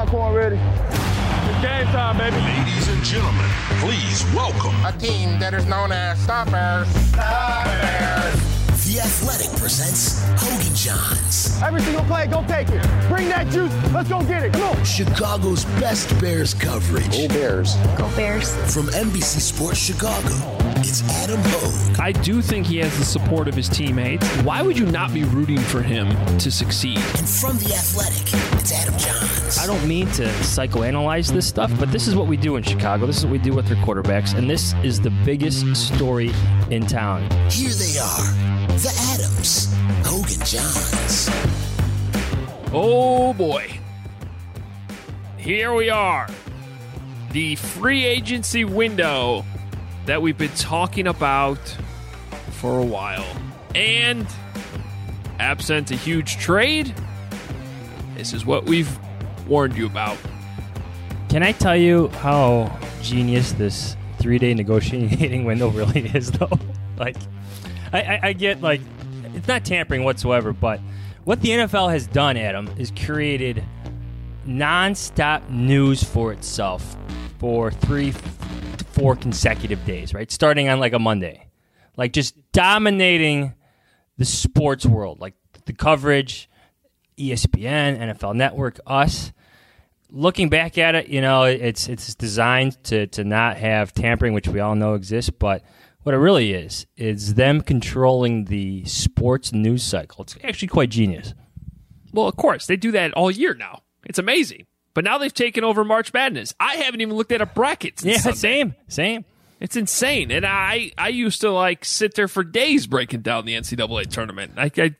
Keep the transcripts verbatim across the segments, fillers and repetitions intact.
popcorn ready? It's game time, baby. Ladies and gentlemen, please welcome a team that is known as the Bears. The Bears. The Athletic presents Hogan Johns. Every single play, go take it. Bring that juice. Let's go get it. Come on. Chicago's best Bears coverage. Go Bears. Go Bears. From N B C Sports Chicago, it's Adam Hogue. I do think he has the support of his teammates. Why would you not be rooting for him to succeed? And from The Athletic, it's Adam Johns. I don't mean to psychoanalyze this stuff, but this is what we do in Chicago. This is what we do with our quarterbacks, and this is the biggest story in town. Here they are. The Adams, Hogan Johns. Oh boy. Here we are. The free agency window that we've been talking about for a while. And absent a huge trade, this is what we've warned you about. Can I tell you how genius this three-day negotiating window really is, though? Like, I, I, I get, like, it's not tampering whatsoever, but what the N F L has done, Adam, is created nonstop news for itself for three to four consecutive days, right? Starting on, like, a Monday. Like, just dominating the sports world. Like, the coverage, E S P N, N F L Network, us. Looking back at it, you know, it's it's designed to, to not have tampering, which we all know exists, but what it really is, is them controlling the sports news cycle. It's actually quite genius. Well, of course, they do that all year now. It's amazing. But now they've taken over March Madness. I haven't even looked at a bracket since Yeah, Sunday. same, same. It's insane. And I, I used to, like, sit there for days breaking down the N C double A tournament. I, I,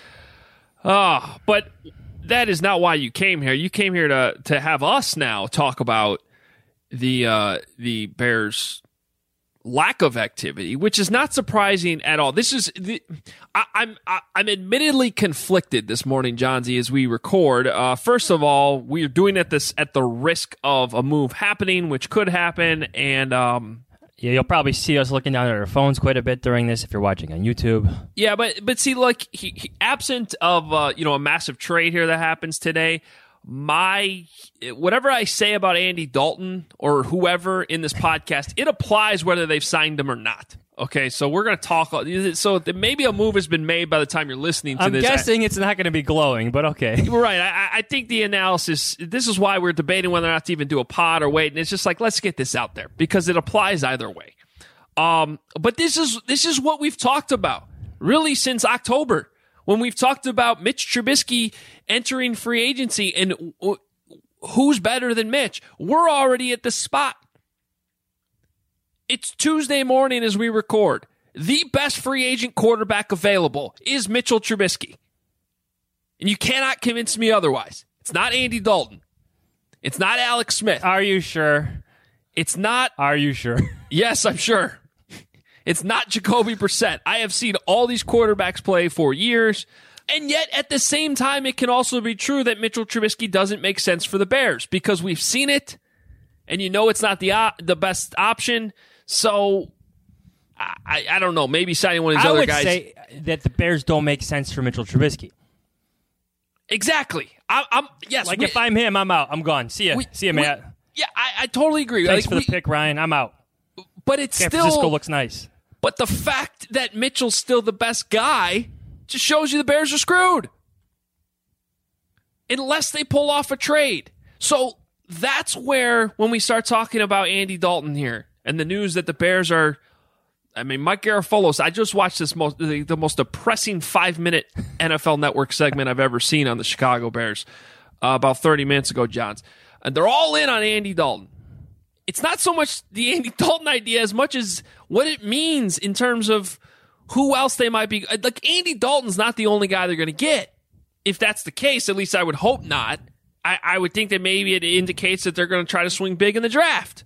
oh, but that is not why you came here. You came here to to have us now talk about the uh, the Bears' lack of activity, which is not surprising at all. This is the, I, I'm I, I'm admittedly conflicted this morning, Johnsy, as we record. Uh, first of all, we are doing it this at the risk of a move happening, which could happen, and um, Yeah, you'll probably see us looking down at our phones quite a bit during this if you're watching on YouTube. Yeah, but but see, like, he, he, absent of uh, you know a massive trade here that happens today, my whatever I say about Andy Dalton or whoever in this podcast, it applies whether they've signed him or not. Okay, so we're going to talk. So maybe a move has been made by the time you're listening to I'm this. I'm guessing it's not going to be glowing, but okay. You're right. I, I think the analysis, this is why we're debating whether or not to even do a pod or wait. And it's just like, let's get this out there because it applies either way. Um, but this is this is what we've talked about really since October when we've talked about Mitch Trubisky entering free agency and w- who's better than Mitch. We're already at the spot. It's Tuesday morning as we record. The best free agent quarterback available is Mitchell Trubisky. And you cannot convince me otherwise. It's not Andy Dalton. It's not Alex Smith. Are you sure? It's not. Are you sure? Yes, I'm sure. It's not Jacoby Brissett. I have seen all these quarterbacks play for years. And yet, at the same time, it can also be true that Mitchell Trubisky doesn't make sense for the Bears because we've seen it. And you know it's not the uh, the best option. So, I, I don't know. Maybe signing one of these I other would guys. say that the Bears don't make sense for Mitchell Trubisky. Exactly. I, I'm yes. Like we, if I'm him, I'm out. I'm gone. See ya. We, See ya, we, Matt. Yeah, I, I totally agree. Thanks like, for the we, pick, Ryan. I'm out. But it's San still Francisco looks nice. But the fact that Mitchell's still the best guy just shows you the Bears are screwed. Unless they pull off a trade. So that's where, when we start talking about Andy Dalton here and the news that the Bears are, I mean, Mike Garafolo, I just watched this most the, the most depressing five-minute N F L Network segment I've ever seen on the Chicago Bears uh, about thirty minutes ago, Johns. And they're all in on Andy Dalton. It's not so much the Andy Dalton idea as much as what it means in terms of who else they might be. Like, Andy Dalton's not the only guy they're going to get. If that's the case, at least I would hope not. I, I would think that maybe it indicates that they're going to try to swing big in the draft.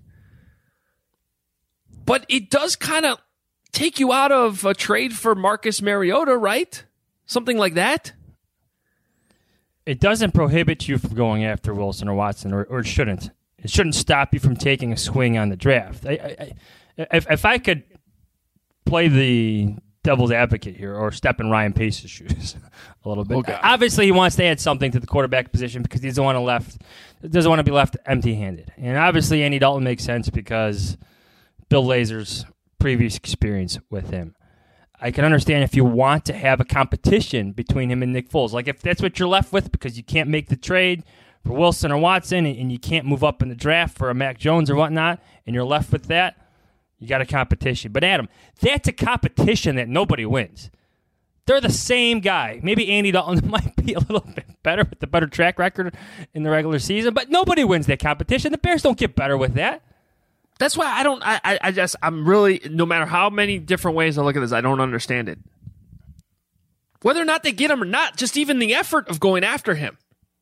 But it does kind of take you out of a trade for Marcus Mariota, right? Something like that. It doesn't prohibit you from going after Wilson or Watson, or, or it shouldn't. It shouldn't stop you from taking a swing on the draft. I, I, I, if, if I could play the devil's advocate here, or step in Ryan Pace's shoes a little bit. Okay. Obviously, he wants to add something to the quarterback position because he doesn't want to left doesn't want to be left empty-handed. And obviously, Andy Dalton makes sense because Bill Lazor's previous experience with him. I can understand if you want to have a competition between him and Nick Foles. Like if that's what you're left with because you can't make the trade for Wilson or Watson and you can't move up in the draft for a Mac Jones or whatnot, and you're left with that, you got a competition. But Adam, that's a competition that nobody wins. They're the same guy. Maybe Andy Dalton might be a little bit better with the better track record in the regular season, but nobody wins that competition. The Bears don't get better with that. That's why I don't. I, I, I just. I'm really. No matter how many different ways I look at this, I don't understand it. Whether or not they get him or not, just even the effort of going after him.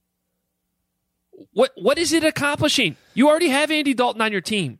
What What is it accomplishing? You already have Andy Dalton on your team.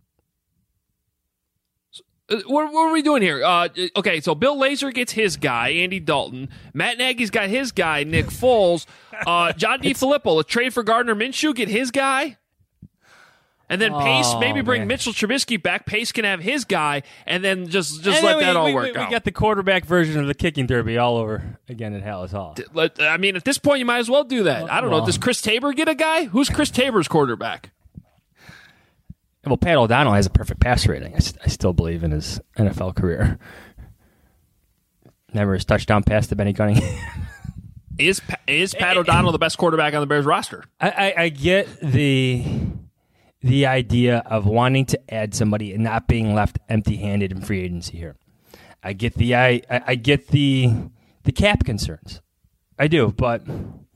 So, uh, what, what are we doing here? Uh, okay, so Bill Lazor gets his guy, Andy Dalton. Matt Nagy's got his guy, Nick Foles. Uh, John DeFilippo, a trade for Gardner Minshew, get his guy. And then Pace, Oh, maybe bring man. Mitchell Trubisky back. Pace can have his guy, and then just just And let then we, that all we, work we, out. We got the quarterback version of the kicking derby all over again at Hallis Hall. Let- I mean, at this point, you might as well do that. I don't know. Well. Does Chris Tabor get a guy? Who's Chris Tabor's quarterback? Well, Pat O'Donnell has a perfect pass rating. I, st- I still believe in his N F L career. Never his touchdown pass to Benny Cunningham. Is Pa- is Pat O'Donnell the best quarterback on the Bears roster? I, I, I get the the idea of wanting to add somebody and not being left empty-handed in free agency here. I get the I, I, I get the the cap concerns. I do, but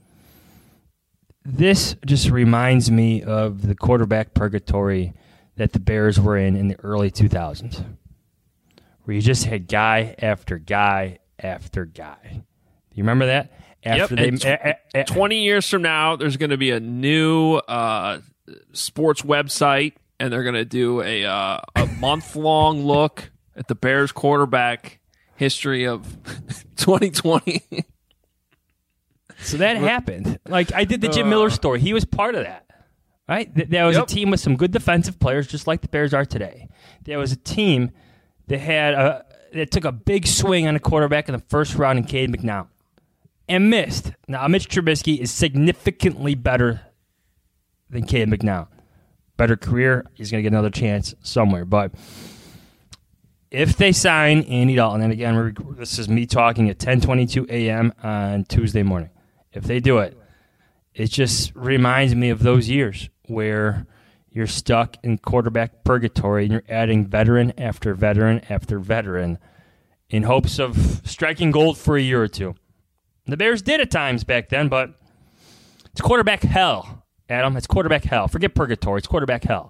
this just reminds me of the quarterback purgatory that the Bears were in in the early two thousands, where you just had guy after guy after guy. You remember that? After Yep, and they, a- a- a- twenty years from now, there's going to be a new uh, sports website, and they're going to do a uh, a month long look at the Bears quarterback history of twenty twenty. So that happened. Like, I did the Jim Miller story. He was part of that, right? Th- There was Yep. a team with some good defensive players, just like the Bears are today. There was a team that had a that took a big swing on a quarterback in the first round in Cade McNown and missed. Now, Mitch Trubisky is significantly better than Cade McNown. Better career. He's going to get another chance somewhere. But if they sign Andy Dalton, and again, we're, this is me talking at ten twenty-two a.m. on Tuesday morning. If they do it, it just reminds me of those years where you're stuck in quarterback purgatory and you're adding veteran after veteran after veteran in hopes of striking gold for a year or two. The Bears did at times back then, but it's quarterback hell, Adam. It's quarterback hell. Forget purgatory. It's quarterback hell.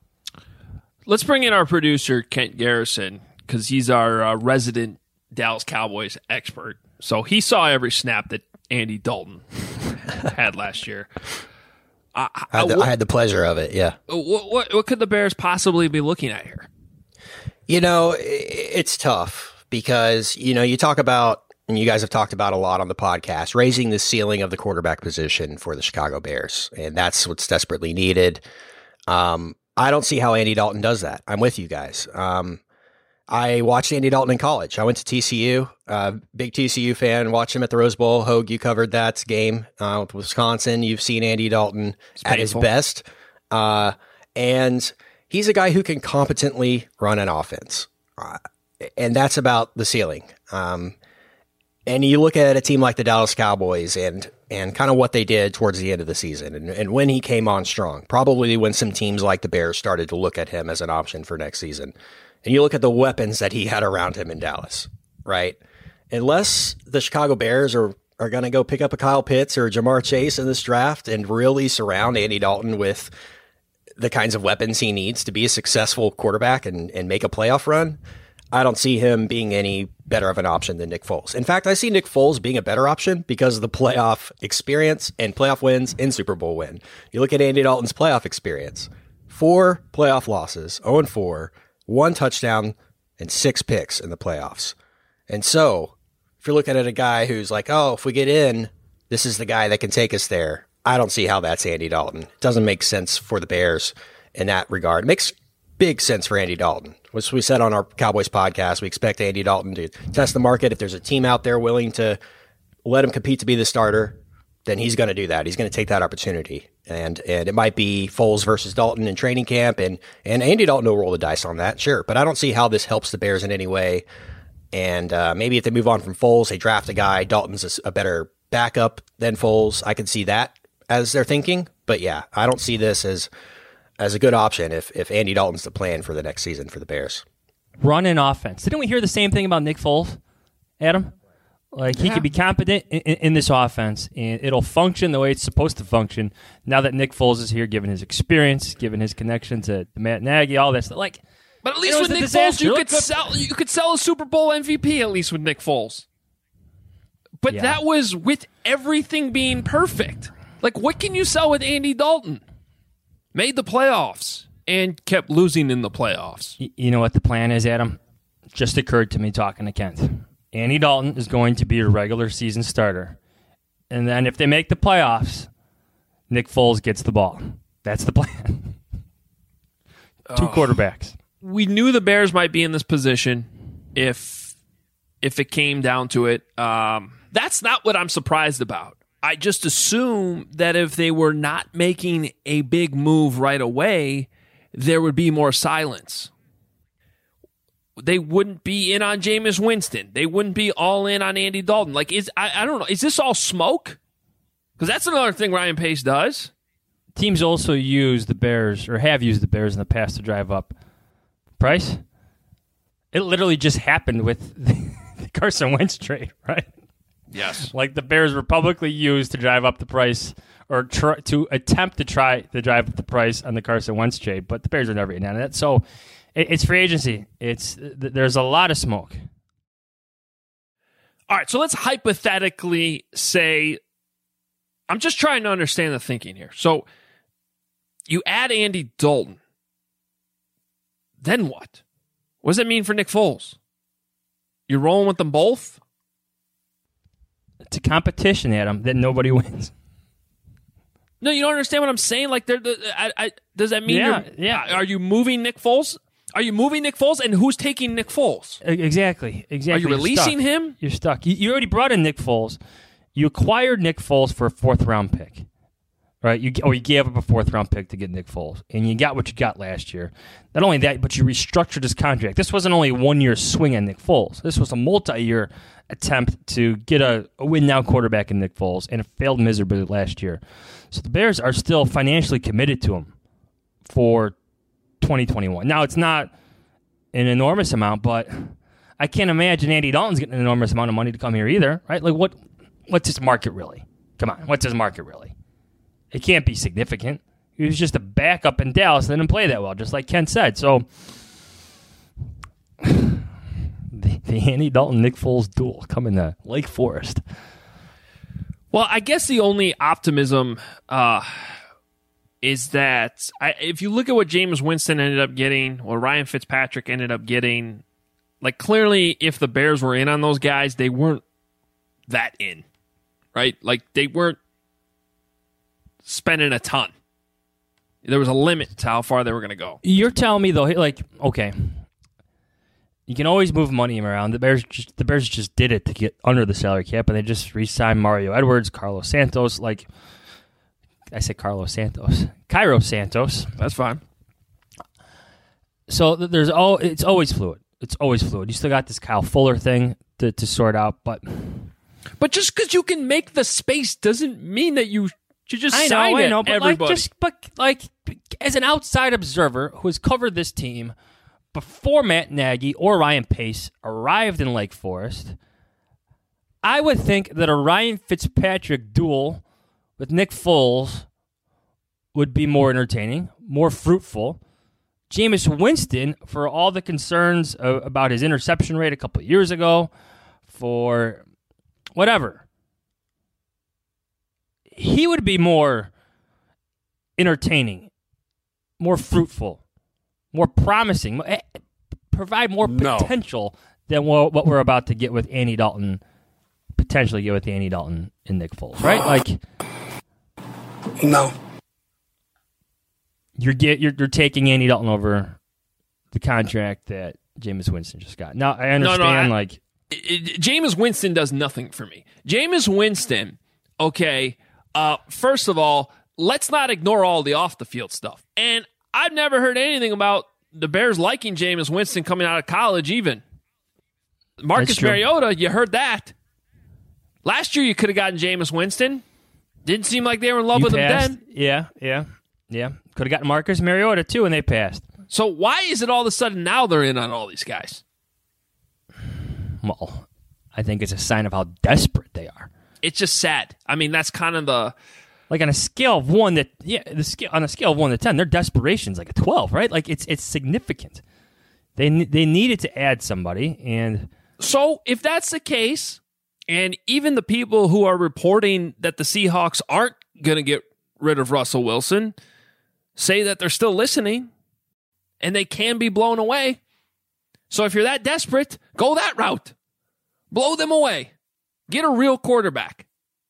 Let's bring in our producer, Kent Garrison, because he's our uh, resident Dallas Cowboys expert. So he saw every snap that Andy Dalton had last year. Uh, I had, the, what, I had the pleasure of it, yeah. what, what, what could the Bears possibly be looking at here? You know, i- it's tough because, you know, you talk about, and you guys have talked about a lot on the podcast, raising the ceiling of the quarterback position for the Chicago Bears. And that's what's desperately needed. Um, I don't see how Andy Dalton does that. I'm with you guys. Um, I watched Andy Dalton in college. I went to T C U, uh, big T C U fan, watched him at the Rose Bowl. Hogue, you covered that game uh, with Wisconsin. You've seen Andy Dalton at his painful. best. Uh, and he's a guy who can competently run an offense. Uh, and that's about the ceiling. Um, and you look at a team like the Dallas Cowboys and and kind of what they did towards the end of the season and, and when he came on strong, probably when some teams like the Bears started to look at him as an option for next season. And you look at the weapons that he had around him in Dallas, right? Unless the Chicago Bears are, are going to go pick up a Kyle Pitts or a Jamar Chase in this draft and really surround Andy Dalton with the kinds of weapons he needs to be a successful quarterback and, and make a playoff run, I don't see him being any better of an option than Nick Foles. In fact, I see Nick Foles being a better option because of the playoff experience and playoff wins and Super Bowl win. You look at Andy Dalton's playoff experience, four playoff losses, oh and four, one touchdown, and six picks in the playoffs. And so, if you're looking at a guy who's like, oh, if we get in, this is the guy that can take us there, I don't see how that's Andy Dalton. It doesn't make sense for the Bears in that regard. It makes big sense for Andy Dalton. As we said on our Cowboys podcast, we expect Andy Dalton to test the market. If there's a team out there willing to let him compete to be the starter, then he's going to do that. He's going to take that opportunity. And and it might be Foles versus Dalton in training camp, and, and Andy Dalton will roll the dice on that, sure. But I don't see how this helps the Bears in any way. And uh, maybe if they move on from Foles, they draft a guy, Dalton's a, a better backup than Foles. I could see that as they're thinking. But yeah, I don't see this as as a good option if, if Andy Dalton's the plan for the next season for the Bears. Run an offense. Didn't we hear the same thing about Nick Foles, Adam? Like, he yeah. could be competent in, in, in this offense, and it'll function the way it's supposed to function now that Nick Foles is here, given his experience, given his connection to Matt Nagy, all that stuff. Like, but at least it with was a Nick disaster. Foles, you Look could up- sell you could sell a Super Bowl M V P at least with Nick Foles. But Yeah. that was with everything being perfect. Like, what can you sell with Andy Dalton? Made the playoffs and kept losing in the playoffs. Y- You know what the plan is, Adam? Just occurred to me talking to Kent. Andy Dalton is going to be a regular season starter. And then if they make the playoffs, Nick Foles gets the ball. That's the plan. Two quarterbacks. We knew the Bears might be in this position if if it came down to it. Um, that's not what I'm surprised about. I just assume that if they were not making a big move right away, there would be more silence. They wouldn't be in on Jameis Winston. They wouldn't be all in on Andy Dalton. Like, is I, I don't know. Is this all smoke? Because that's another thing Ryan Pace does. Teams also use the Bears, or have used the Bears in the past to drive up price. It literally just happened with the Carson Wentz trade, right? Yes. Like, the Bears were publicly used to drive up the price, or try, to attempt to try to drive up the price on the Carson Wentz trade, but the Bears are never in on it. So it, it's free agency. It's there's a lot of smoke. All right, so let's hypothetically say, I'm just trying to understand the thinking here. So you add Andy Dalton, then what? What does that mean for Nick Foles? You're rolling with them both? It's a competition, Adam, that nobody wins. No, you don't understand what I'm saying. Like, they're the, I, I, does that mean Yeah, you're? yeah. Are you moving Nick Foles? Are you moving Nick Foles? And who's taking Nick Foles? Exactly. Exactly. Are you You're releasing stuck. him? You're stuck. You, you already brought in Nick Foles. You acquired Nick Foles for a fourth round pick, right? You or you gave up a fourth round pick to get Nick Foles, and you got what you got last year. Not only that, but you restructured his contract. This wasn't only a one year swing on Nick Foles. This was a multi year attempt to get a, a win now quarterback in Nick Foles, and it failed miserably last year. So the Bears are still financially committed to him for twenty twenty-one. Now, it's not an enormous amount, but I can't imagine Andy Dalton's getting an enormous amount of money to come here either, right? Like, what? What's his market really? Come on, what's his market really? It can't be significant. He was just a backup in Dallas and didn't play that well, just like Ken said. So, the, the Andy Dalton-Nick Foles duel coming to Lake Forest. Well, I guess the only optimism uh, is that I, if you look at what Jameis Winston ended up getting, what Ryan Fitzpatrick ended up getting, like, clearly if the Bears were in on those guys, they weren't that in, right? Like, they weren't spending a ton. There was a limit to how far they were going to go. You're telling me, though, like, okay, you can always move money around. The Bears just, the Bears just did it to get under the salary cap, and they just re-signed Mario Edwards, Carlos Santos. Like, I said Carlos Santos. Cairo Santos. That's fine. So th- there's all. It's always fluid. It's always fluid. You still got this Kyle Fuller thing to, to sort out, but But just because you can make the space doesn't mean that you should just I know, sign I it, know, but everybody. like, just but like as an outside observer who has covered this team before Matt Nagy or Ryan Pace arrived in Lake Forest, I would think that a Ryan Fitzpatrick duel with Nick Foles would be more entertaining, more fruitful. Jameis Winston, for all the concerns uh, about his interception rate a couple of years ago, for whatever, he would be more entertaining, more fruitful, more promising, provide more No. potential than what what we're about to get with Andy Dalton, potentially get with Andy Dalton and Nick Foles, right? Like, No. you're get you're, you're taking Andy Dalton over the contract that Jameis Winston just got. Now, I understand, no, no, I, like... It, it, Jameis Winston does nothing for me. Jameis Winston, okay, uh, first of all, let's not ignore all the off-the-field stuff. And I've never heard anything about the Bears liking Jameis Winston coming out of college even. Marcus Mariota, you heard that. Last year you could have gotten Jameis Winston. Didn't seem like they were in love you with passed. him then. Yeah, yeah, yeah. Could have gotten Marcus Mariota too, and they passed. So why is it all of a sudden now they're in on all these guys? Well, I think it's a sign of how desperate they are. It's just sad. I mean, that's kind of the... Like on a scale of one to yeah, the scale on a scale of one to ten, their desperation's like a twelve, right? Like it's it's significant. They they needed to add somebody, and so if that's the case, and even the people who are reporting that the Seahawks aren't going to get rid of Russell Wilson say that they're still listening, and they can be blown away. So if you're that desperate, go that route, blow them away, get a real quarterback.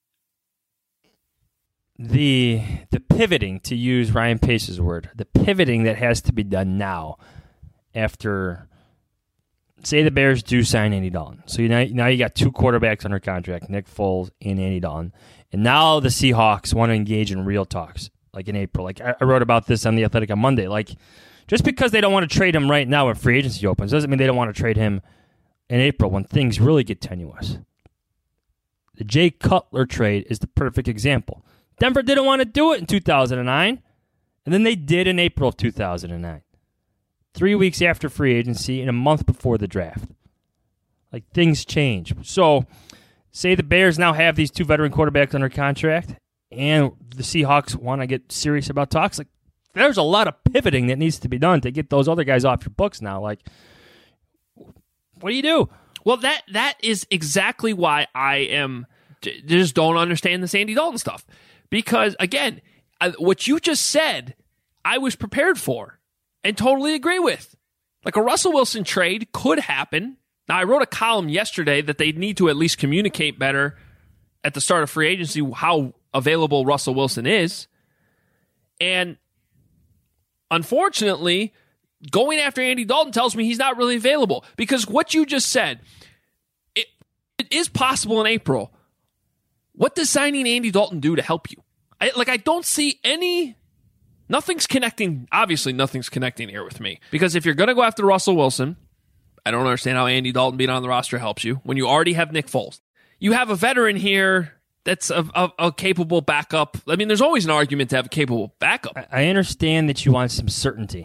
The the pivoting, to use Ryan Pace's word, the pivoting that has to be done now after, say the Bears do sign Andy Dalton. So you now, now you got two quarterbacks under contract, Nick Foles and Andy Dalton. And now the Seahawks want to engage in real talks, like in April. Like I, I wrote about this on The Athletic on Monday. Like just because they don't want to trade him right now when free agency opens doesn't mean they don't want to trade him in April when things really get tenuous. The Jay Cutler trade is the perfect example. Denver didn't want to do it in two thousand nine, and then they did in April of two thousand nine. Three weeks after free agency and a month before the draft. Like, things change. So, say the Bears now have these two veteran quarterbacks under contract, and the Seahawks want to get serious about talks. Like, there's a lot of pivoting that needs to be done to get those other guys off your books now. Like, what do you do? Well, that that is exactly why I am just don't understand the Andy Dalton stuff. Because, again, I, what you just said, I was prepared for and totally agree with. Like a Russell Wilson trade could happen. Now, I wrote a column yesterday that they need to at least communicate better at the start of free agency how available Russell Wilson is. And unfortunately, going after Andy Dalton tells me he's not really available. Because what you just said, it, it is possible in April. What does signing Andy Dalton do to help you? I, like, I don't see any... Nothing's connecting. Obviously, nothing's connecting here with me. Because if you're going to go after Russell Wilson, I don't understand how Andy Dalton being on the roster helps you when you already have Nick Foles. You have a veteran here that's a, a, a capable backup. I mean, there's always an argument to have a capable backup. I understand that you want some certainty.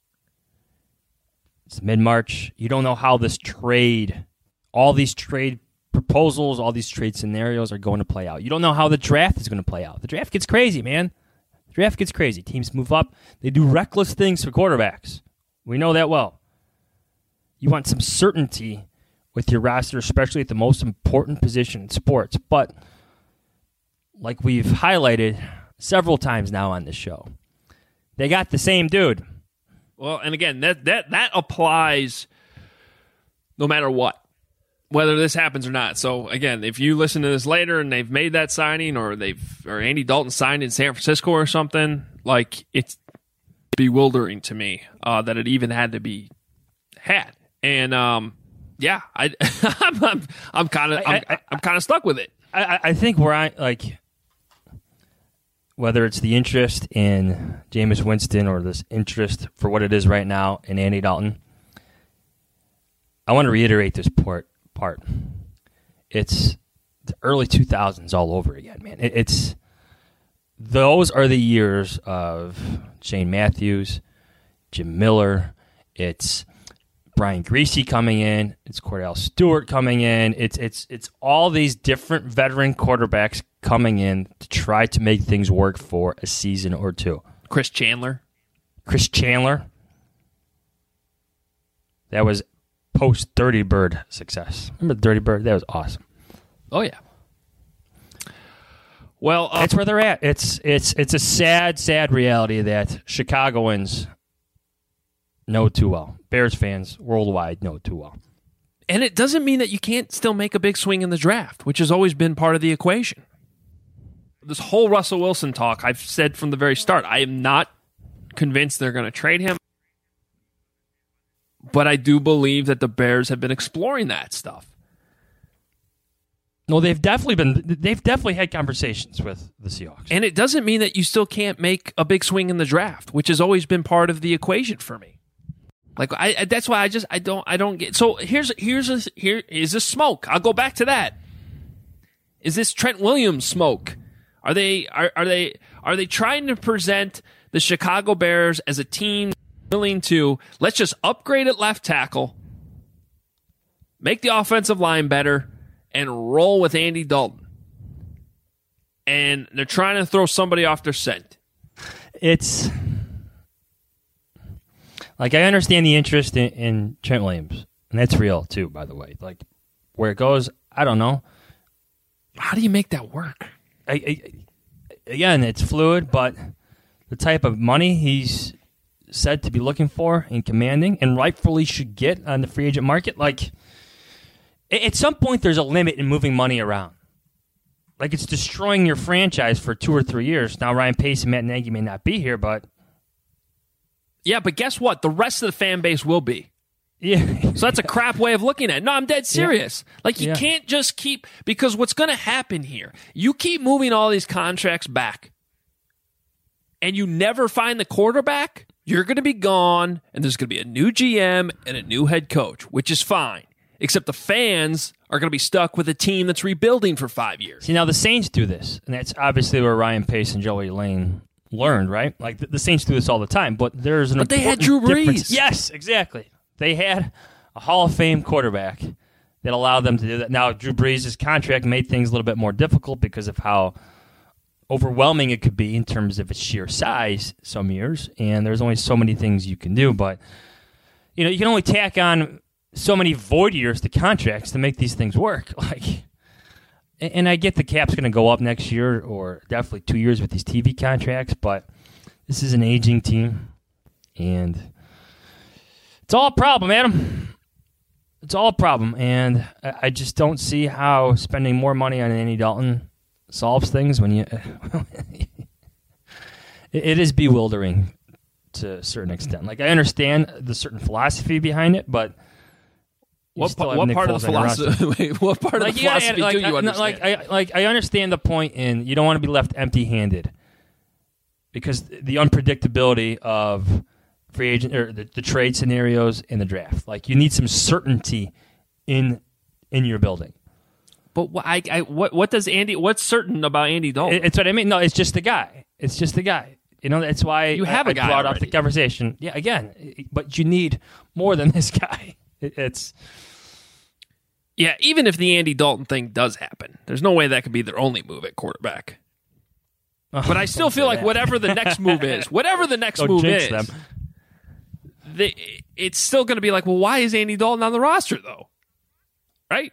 It's mid-March. You don't know how this trade, all these trade proposals, all these trade scenarios are going to play out. You don't know how the draft is going to play out. The draft gets crazy, man. The draft gets crazy. Teams move up. They do reckless things for quarterbacks. We know that well. You want some certainty with your roster, especially at the most important position in sports. But like we've highlighted several times now on this show, they got the same dude. Well, and again, that that that applies no matter what, whether this happens or not. So again, if you listen to this later and they've made that signing, or they've or Andy Dalton signed in San Francisco or something, like, it's bewildering to me uh, that it even had to be had. And um, yeah, I I'm I'm, I'm kind of I'm, I'm kind of stuck with it. I, I think where I like. Whether it's the interest in Jameis Winston or this interest for what it is right now in Andy Dalton, I want to reiterate this part. part. It's the early two thousands all over again, man. It, it's those are the years of Shane Matthews, Jim Miller. It's Brian Griese coming in. It's Cordell Stewart coming in. It's it's it's all these different veteran quarterbacks coming in to try to make things work for a season or two. Chris Chandler. Chris Chandler. That was post Dirty Bird success. Remember the Dirty Bird? That was awesome. Oh yeah. Well, uh, that's where they're at. It's it's it's a sad, sad reality that Chicagoans know too well. Bears fans worldwide know too well. And it doesn't mean that you can't still make a big swing in the draft, which has always been part of the equation. This whole Russell Wilson talk, I've said from the very start, I am not convinced they're going to trade him. But I do believe that the Bears have been exploring that stuff. No, they've definitely been. They've definitely had conversations with the Seahawks, And it doesn't mean that you still can't make a big swing in the draft, which has always been part of the equation for me. Like I, I that's why I just I don't I don't get. So here's here's a, here is this smoke. I'll go back to that. Is this Trent Williams smoke? Are they are are they are they trying to present the Chicago Bears as a team willing to let's just upgrade at left tackle, make the offensive line better, and roll with Andy Dalton? And they're trying to throw somebody off their scent. It's like I understand the interest in, in Trent Williams, and that's real too, by the way. Like where it goes, I don't know. How do you make that work? I, I, again, it's fluid, but the type of money he's said to be looking for and commanding, and rightfully should get on the free agent market, like at some point there's a limit in moving money around. Like it's destroying your franchise for two or three years. Now Ryan Pace and Matt Nagy may not be here, but yeah, but guess what? The rest of the fan base will be. Yeah. So that's a crap way of looking at it. No, I'm dead serious. Yeah. Like, you yeah. can't just keep, because what's going to happen here, you keep moving all these contracts back, and you never find the quarterback, you're going to be gone, and there's going to be a new G M and a new head coach, which is fine. Except the fans are going to be stuck with a team that's rebuilding for five years. See, now the Saints do this, and that's obviously where Ryan Pace and Joey Lane learned, right? Like, the, the Saints do this all the time, but there's an But they had important Drew Brees. difference. Yes, exactly. They had a Hall of Fame quarterback that allowed them to do that. Now, Drew Brees' contract made things a little bit more difficult because of how overwhelming it could be in terms of its sheer size some years, and there's only so many things you can do. But, you know, you can only tack on so many void years to contracts to make these things work. Like, and I get the cap's going to go up next year or definitely two years with these T V contracts, but this is an aging team, and it's all a problem, Adam. It's all a problem, and I just don't see how spending more money on Andy Dalton solves things when you... It is bewildering to a certain extent. Like, I understand the certain philosophy behind it, but... What, pa- what part of the philosophy? Wait, what part like, of the yeah, philosophy like, do you I, understand? Like I, like, I understand the point in you don't want to be left empty-handed because the unpredictability of free agent or the, the trade scenarios in the draft. Like, you need some certainty in in your building. But what, I, I, what, what does Andy? What's certain about Andy Dalton? It, it's what I mean. No, it's just the guy. It's just the guy. You know, that's why you have I, a guy I brought already. up the conversation. Yeah, again, but you need more than this guy. It, it's. Yeah, even if the Andy Dalton thing does happen, there's no way that could be their only move at quarterback. Oh, but I still feel like that. whatever the next move is, whatever the next Don't move jinx is, them. they, it's still going to be like, well, why is Andy Dalton on the roster, though? Right?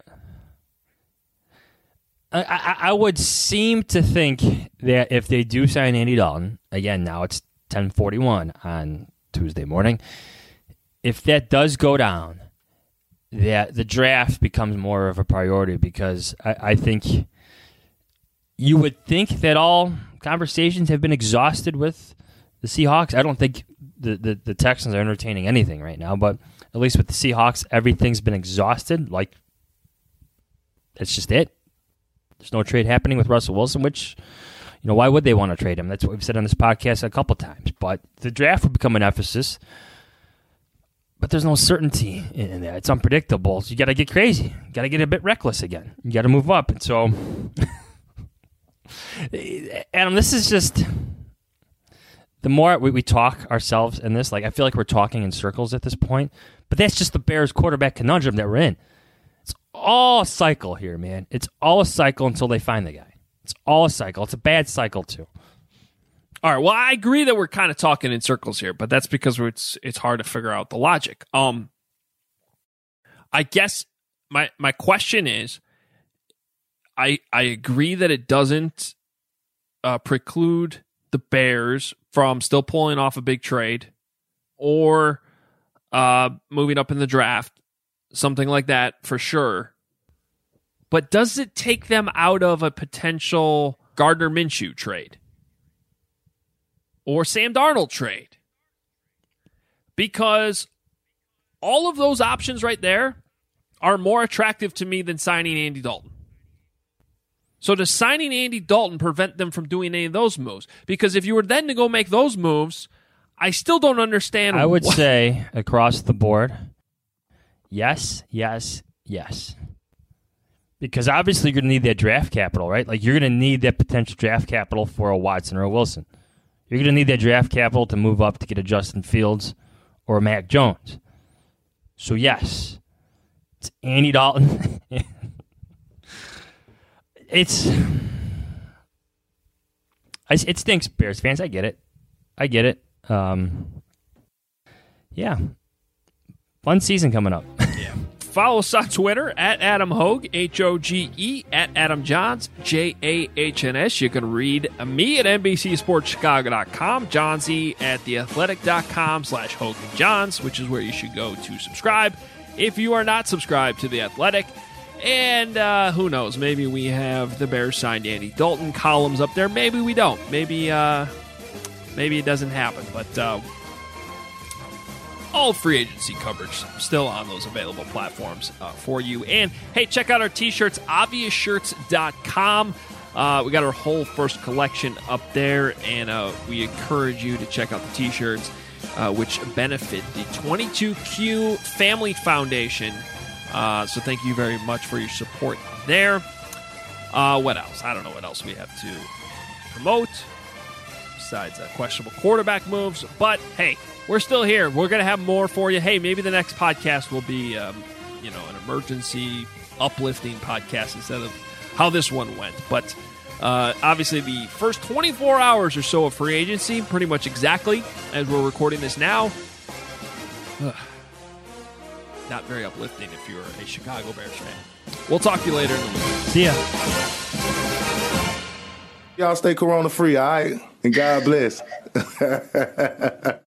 I, I, I would seem to think that if they do sign Andy Dalton, again, now it's ten forty-one on Tuesday morning, if that does go down, that the draft becomes more of a priority because I, I think you would think that all conversations have been exhausted with the Seahawks. I don't think the, the, the Texans are entertaining anything right now, but at least with the Seahawks, everything's been exhausted. Like, that's just it. There's no trade happening with Russell Wilson, which, you know, why would they want to trade him? That's what we've said on this podcast a couple times. But the draft would become an emphasis. But there's no certainty in that. It's unpredictable. So you got to get crazy. You got to get a bit reckless again. You got to move up. And so, Adam, this is just the more we, we talk ourselves in this. Like, I feel like we're talking in circles at this point. But that's just the Bears quarterback conundrum that we're in. It's all a cycle here, man. It's all a cycle until they find the guy. It's all a cycle. It's a bad cycle too. All right. Well, I agree that we're kind of talking in circles here, but that's because it's it's hard to figure out the logic. Um, I guess my my question is, I I agree that it doesn't uh, preclude the Bears from still pulling off a big trade or uh, moving up in the draft, something like that for sure. But does it take them out of a potential Gardner Minshew trade? Or Sam Darnold trade? Because all of those options right there are more attractive to me than signing Andy Dalton. So does signing Andy Dalton prevent them from doing any of those moves? Because if you were then to go make those moves, I still don't understand. I would what- say across the board, yes, yes, yes. Because obviously you're going to need that draft capital, right? Like you're going to need that potential draft capital for a Watson or a Wilson. You're going to need that draft capital to move up to get a Justin Fields or a Mac Jones. So yes, it's Andy Dalton. It's I, it stinks, Bears fans. I get it. I get it. Um, yeah, fun season coming up. Yeah. Follow us on Twitter at Adam Hoge, H O G E, at Adam Johns, J A H N S. You can read me at N B C Sports Chicago dot com, Johnsy at the athletic dot com slash Hogan Johns, which is where you should go to subscribe if you are not subscribed to The Athletic. And uh, who knows, maybe we have the Bears signed Andy Dalton columns up there. Maybe we don't. Maybe uh, maybe it doesn't happen. But uh, all free agency coverage still on those available platforms uh, for you. And, hey, check out our T-shirts, obvious shirts dot com. Uh, we got our whole first collection up there, and uh, we encourage you to check out the T-shirts, uh, which benefit the twenty-two Q Family Foundation. Uh, so thank you very much for your support there. Uh, what else? I don't know what else we have to promote besides uh, questionable quarterback moves. But, hey, we're still here. We're going to have more for you. Hey, maybe the next podcast will be, um, you know, an emergency uplifting podcast instead of how this one went. But uh, obviously the first twenty-four hours or so of free agency, pretty much exactly as we're recording this now. Ugh. Not very uplifting if you're a Chicago Bears fan. We'll talk to you later in the week. See ya. Y'all stay corona free, all right? And God bless.